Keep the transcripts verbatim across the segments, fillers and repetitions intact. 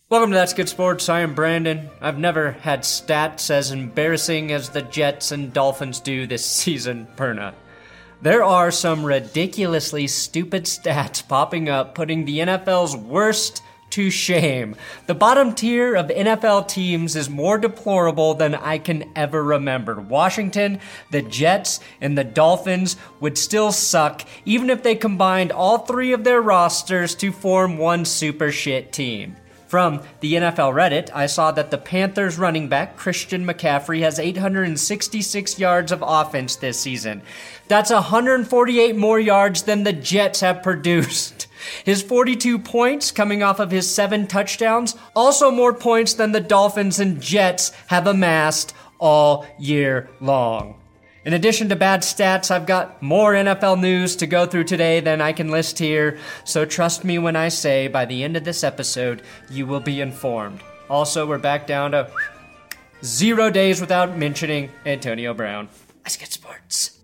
Welcome to That's Good Sports. I am Brandon. I've never had stats as embarrassing as the Jets and Dolphins do this season, Perna. There are some ridiculously stupid stats popping up, putting the N F L's worst to shame. The bottom tier of N F L teams is more deplorable than I can ever remember. Washington, the Jets, and the Dolphins would still suck even if they combined all three of their rosters to form one super shit team. From the N F L Reddit, I saw that the Panthers running back Christian McCaffrey has eight hundred sixty-six yards of offense this season. That's one hundred forty-eight more yards than the Jets have produced. His forty-two points coming off of his seven touchdowns, also more points than the Dolphins and Jets have amassed all year long. In addition to bad stats, I've got more N F L news to go through today than I can list here, so trust me when I say by the end of this episode, you will be informed. Also, we're back down to zero days without mentioning Antonio Brown. Let's get sports.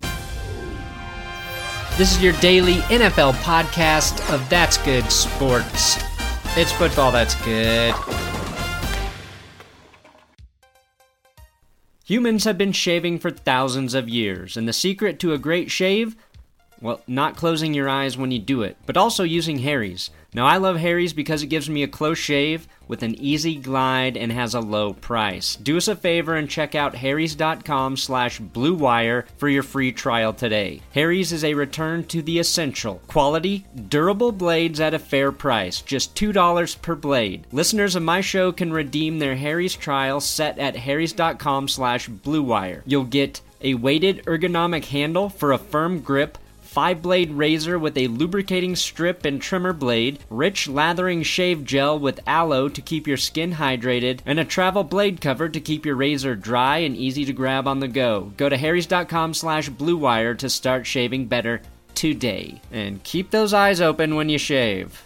This is your daily N F L podcast of That's Good Sports. It's football that's good. Humans have been shaving for thousands of years, and the secret to a great shave? Well, not closing your eyes when you do it, but also using Harry's. Now, I love Harry's because it gives me a close shave with an easy glide and has a low price. Do us a favor and check out harrys.com slash blue wire for your free trial today. Harry's is a return to the essential. Quality, durable blades at a fair price, just two dollars per blade. Listeners of my show can redeem their Harry's trial set at harrys.com slash blue wire. You'll get a weighted ergonomic handle for a firm grip, five-blade razor with a lubricating strip and trimmer blade, rich lathering shave gel with aloe to keep your skin hydrated, and a travel blade cover to keep your razor dry and easy to grab on the go. Go to harrys.com slash blue wire to start shaving better today. And keep those eyes open when you shave.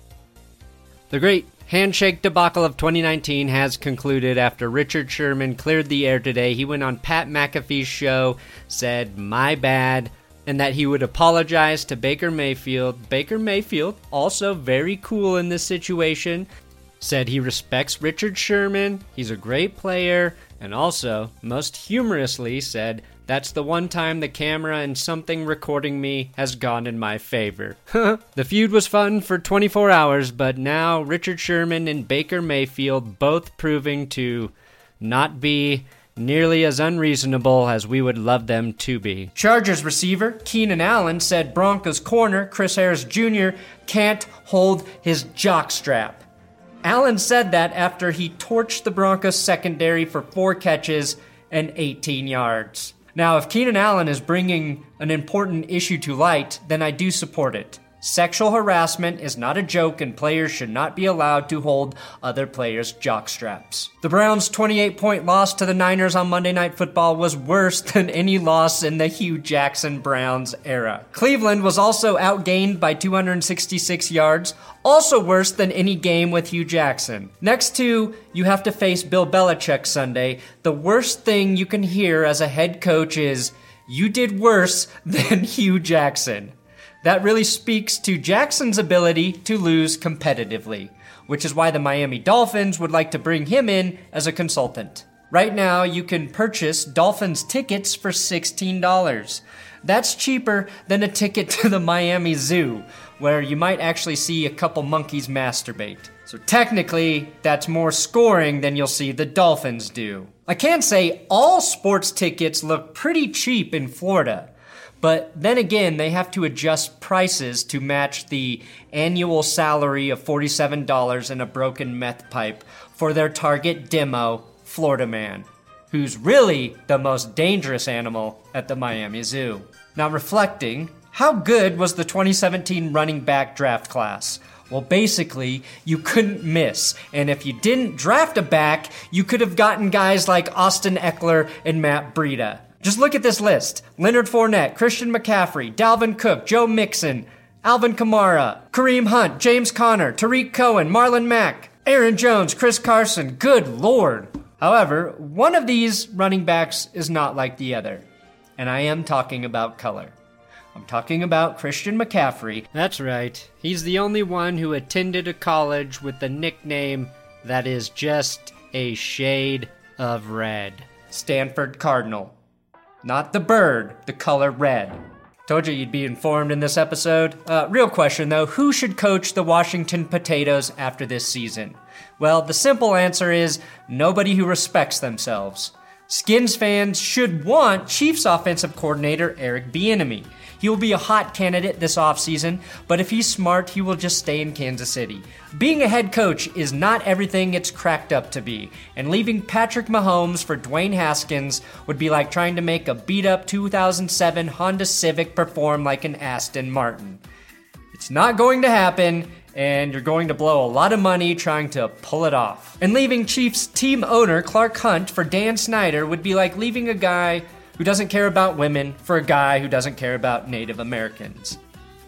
The great handshake debacle of twenty nineteen has concluded after Richard Sherman cleared the air today. He went on Pat McAfee's show, said, "My bad," and that he would apologize to Baker Mayfield. Baker Mayfield, also very cool in this situation, said he respects Richard Sherman, he's a great player, and also, most humorously, said, "That's the one time the camera and something recording me has gone in my favor." The feud was fun for twenty-four hours, but now Richard Sherman and Baker Mayfield both proving to not be nearly as unreasonable as we would love them to be. Chargers receiver Keenan Allen said Broncos corner Chris Harris Junior can't hold his jockstrap. Allen said that after he torched the Broncos secondary for four catches and eighteen yards. Now, if Keenan Allen is bringing an important issue to light, then I do support it. Sexual harassment is not a joke, and players should not be allowed to hold other players' jockstraps. The Browns' twenty-eight point loss to the Niners on Monday Night Football was worse than any loss in the Hugh Jackson Browns era. Cleveland was also outgained by two hundred sixty-six yards, also worse than any game with Hugh Jackson. Next to, you have to face Bill Belichick Sunday, the worst thing you can hear as a head coach is, "You did worse than Hugh Jackson." That really speaks to Jackson's ability to lose competitively, which is why the Miami Dolphins would like to bring him in as a consultant. Right now, you can purchase Dolphins tickets for sixteen dollars. That's cheaper than a ticket to the Miami Zoo, where you might actually see a couple monkeys masturbate. So technically, that's more scoring than you'll see the Dolphins do. I can say all sports tickets look pretty cheap in Florida. But then again, they have to adjust prices to match the annual salary of forty-seven dollars and a broken meth pipe for their target demo, Florida Man, who's really the most dangerous animal at the Miami Zoo. Now, reflecting, how good was the twenty seventeen running back draft class? Well, basically, you couldn't miss. And if you didn't draft a back, you could have gotten guys like Austin Eckler and Matt Breida. Just look at this list. Leonard Fournette, Christian McCaffrey, Dalvin Cook, Joe Mixon, Alvin Kamara, Kareem Hunt, James Conner, Tariq Cohen, Marlon Mack, Aaron Jones, Chris Carson. Good Lord. However, one of these running backs is not like the other. And I am talking about color. I'm talking about Christian McCaffrey. That's right. He's the only one who attended a college with the nickname that is just a shade of red. Stanford Cardinal. Not the bird, the color red. Told you you'd be informed in this episode. Uh, real question though, who should coach the Washington Potatoes after this season? Well, the simple answer is nobody who respects themselves. Skins fans should want Chiefs offensive coordinator Eric Bieniemy. He will be a hot candidate this offseason, but if he's smart, he will just stay in Kansas City. Being a head coach is not everything it's cracked up to be, and leaving Patrick Mahomes for Dwayne Haskins would be like trying to make a beat-up two thousand seven Honda Civic perform like an Aston Martin. It's not going to happen, and you're going to blow a lot of money trying to pull it off. And leaving Chiefs team owner Clark Hunt for Dan Snyder would be like leaving a guy who doesn't care about women for a guy who doesn't care about Native Americans.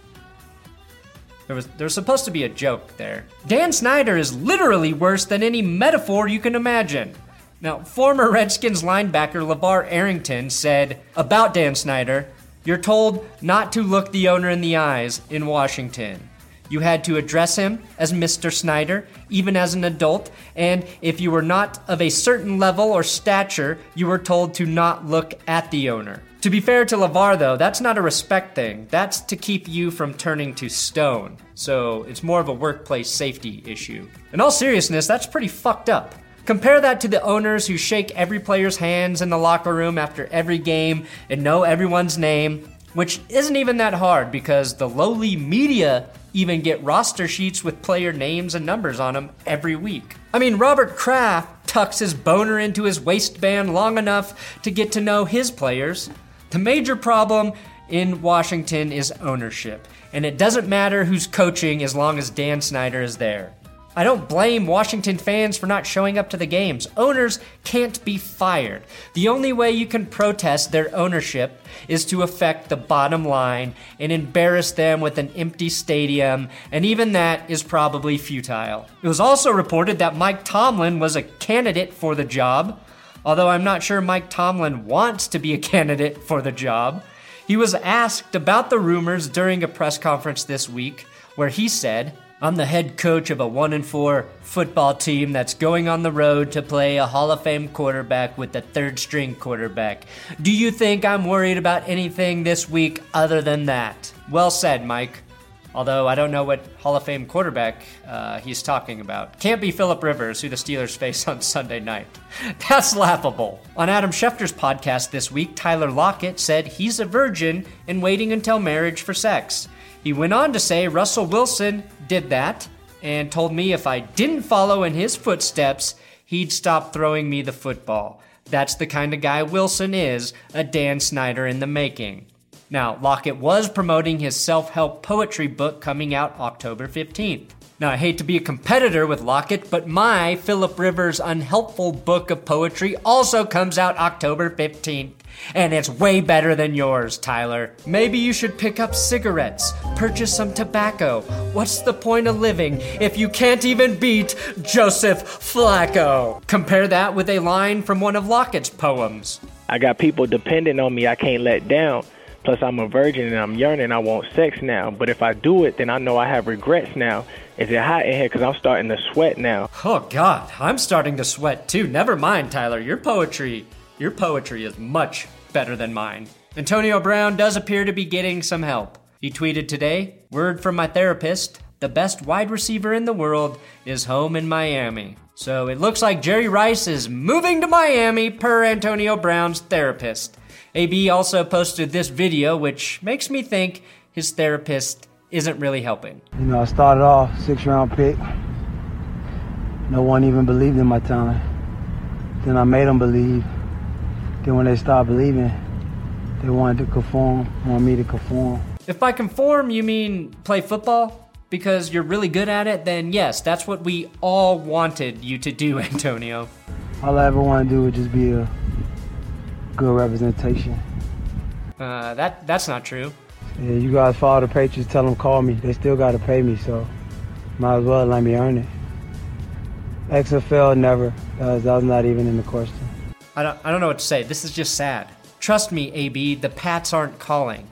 There was, there was supposed to be a joke there. Dan Snyder is literally worse than any metaphor you can imagine. Now, former Redskins linebacker LeVar Arrington said about Dan Snyder, "You're told not to look the owner in the eyes in Washington. You had to address him as Mister Snyder, even as an adult, and if you were not of a certain level or stature, you were told to not look at the owner." To be fair to LeVar, though, that's not a respect thing. That's to keep you from turning to stone. So it's more of a workplace safety issue. In all seriousness, that's pretty fucked up. Compare that to the owners who shake every player's hands in the locker room after every game and know everyone's name, which isn't even that hard because the lowly media even get roster sheets with player names and numbers on them every week. I mean, Robert Kraft tucks his boner into his waistband long enough to get to know his players. The major problem in Washington is ownership, and it doesn't matter who's coaching as long as Dan Snyder is there. I don't blame Washington fans for not showing up to the games. Owners can't be fired. The only way you can protest their ownership is to affect the bottom line and embarrass them with an empty stadium, and even that is probably futile. It was also reported that Mike Tomlin was a candidate for the job, although I'm not sure Mike Tomlin wants to be a candidate for the job. He was asked about the rumors during a press conference this week, where he said, "I'm the head coach of a one and four football team that's going on the road to play a Hall of Fame quarterback with the third string quarterback. Do you think I'm worried about anything this week other than that?" Well said, Mike. Although I don't know what Hall of Fame quarterback uh, he's talking about. Can't be Phillip Rivers, who the Steelers face on Sunday night. That's laughable. On Adam Schefter's podcast this week, Tyler Lockett said he's a virgin and waiting until marriage for sex. He went on to say Russell Wilson did that and told me if I didn't follow in his footsteps, he'd stop throwing me the football. That's the kind of guy Wilson is, a Dan Snyder in the making. Now, Lockett was promoting his self-help poetry book coming out October fifteenth. Now, I hate to be a competitor with Lockett, but my Phillip Rivers Unhelpful Book of Poetry also comes out October fifteenth. And it's way better than yours, Tyler. Maybe you should pick up cigarettes, purchase some tobacco. What's the point of living if you can't even beat Joseph Flacco? Compare that with a line from one of Lockett's poems. "I got people depending on me I can't let down. Plus, I'm a virgin and I'm yearning, I want sex now. But if I do it, then I know I have regrets now. Is it hot in here? Because I'm starting to sweat now." Oh, God, I'm starting to sweat, too. Never mind, Tyler. Your poetry, your poetry is much better than mine. Antonio Brown does appear to be getting some help. He tweeted today, "Word from my therapist, the best wide receiver in the world is home in Miami." So it looks like Jerry Rice is moving to Miami per Antonio Brown's therapist. A B also posted this video, which makes me think his therapist isn't really helping. You know, I started off six round pick. No one even believed in my talent. Then I made them believe. Then when they stopped believing, they wanted to conform, wanted me to conform. If by conform you mean play football because you're really good at it, then yes, that's what we all wanted you to do, Antonio. All I ever want to do is just be a good representation. Uh, that that's not true. Yeah, you guys follow the Patriots, tell them call me. They still got to pay me, so might as well let me earn it. X F L, never. That was, that was not even in the question. I don't, I don't know what to say. This is just sad. Trust me, A B, the Pats aren't calling.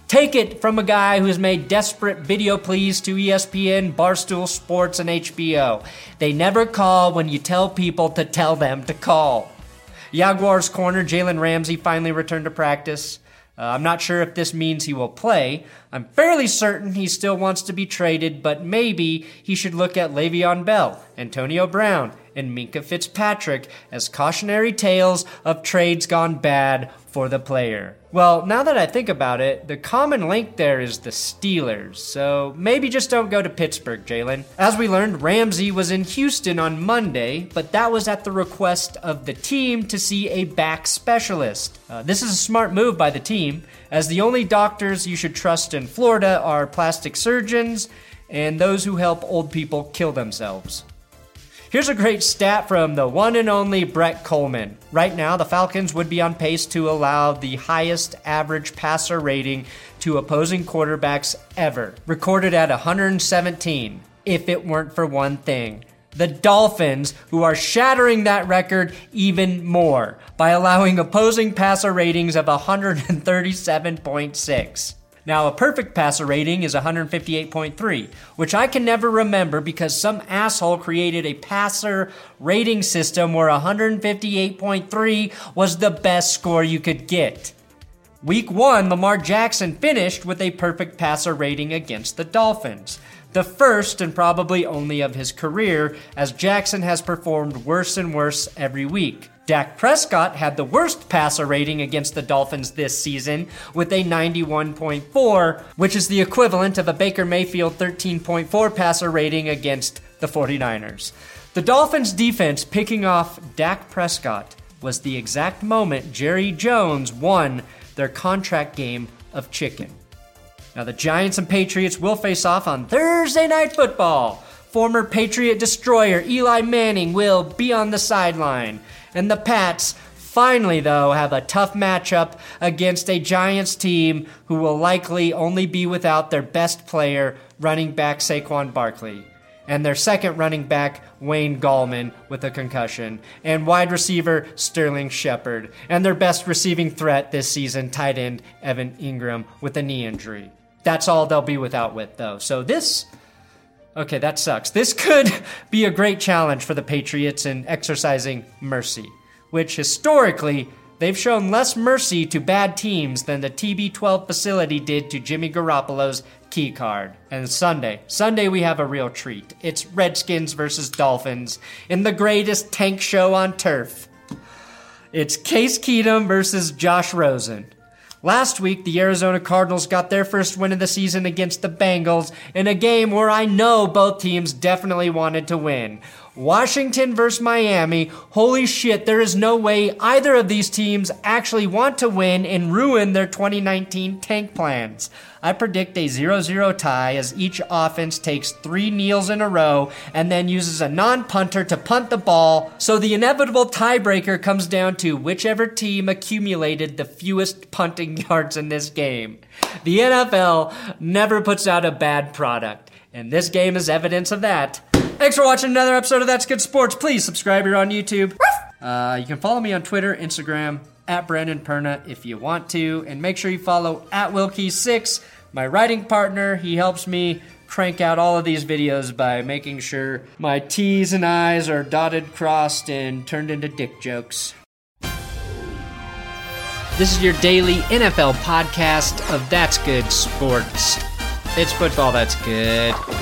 Take it from a guy who's made desperate video pleas to E S P N, Barstool Sports, and H B O. They never call when you tell people to tell them to call. Jaguars corner Jalen Ramsey finally returned to practice. Uh, I'm not sure if this means he will play. I'm fairly certain he still wants to be traded, but maybe he should look at Le'Veon Bell, Antonio Brown, and Minkah Fitzpatrick as cautionary tales of trades gone bad for the player. Well, now that I think about it, the common link there is the Steelers, so maybe just don't go to Pittsburgh, Jalen. As we learned, Ramsey was in Houston on Monday, but that was at the request of the team to see a back specialist. Uh, this is a smart move by the team, as the only doctors you should trust in Florida are plastic surgeons and those who help old people kill themselves. Here's a great stat from the one and only Brett Coleman. Right now, the Falcons would be on pace to allow the highest average passer rating to opposing quarterbacks ever, recorded at one hundred seventeen, if it weren't for one thing. The Dolphins, who are shattering that record even more by allowing opposing passer ratings of one hundred thirty-seven point six. Now, a perfect passer rating is one hundred fifty-eight point three, which I can never remember because some asshole created a passer rating system where one hundred fifty-eight point three was the best score you could get. Week one, Lamar Jackson finished with a perfect passer rating against the Dolphins. The first and probably only of his career, as Jackson has performed worse and worse every week. Dak Prescott had the worst passer rating against the Dolphins this season with a ninety-one point four, which is the equivalent of a Baker Mayfield thirteen point four passer rating against the forty-niners. The Dolphins' defense picking off Dak Prescott was the exact moment Jerry Jones won their contract game of chicken. Now, the Giants and Patriots will face off on Thursday Night Football. Former Patriot destroyer Eli Manning will be on the sideline. And the Pats finally, though, have a tough matchup against a Giants team who will likely only be without their best player, running back Saquon Barkley, and their second running back, Wayne Gallman, with a concussion, and wide receiver Sterling Shepard, and their best receiving threat this season, tight end Evan Ingram, with a knee injury. That's all they'll be without with, though. So this... Okay, that sucks. This could be a great challenge for the Patriots in exercising mercy, which historically, they've shown less mercy to bad teams than the T B twelve facility did to Jimmy Garoppolo's key card. And Sunday, Sunday we have a real treat. It's Redskins versus Dolphins in the greatest tank show on turf. It's Case Keenum versus Josh Rosen. Last week, the Arizona Cardinals got their first win of the season against the Bengals in a game where I know both teams definitely wanted to win. Washington versus Miami. Holy shit, there is no way either of these teams actually want to win and ruin their twenty nineteen tank plans. I predict a zero zero tie as each offense takes three kneels in a row and then uses a non-punter to punt the ball, so the inevitable tiebreaker comes down to whichever team accumulated the fewest punting yards in this game. The N F L never puts out a bad product, and this game is evidence of that. Thanks for watching another episode of That's Good Sports. Please subscribe here on YouTube. Uh, you can follow me on Twitter, Instagram, at Brandon Perna if you want to. And make sure you follow at Wilkie six, my writing partner. He helps me crank out all of these videos by making sure my T's and I's are dotted, crossed, and turned into dick jokes. This is your daily N F L podcast of That's Good Sports. It's football that's good.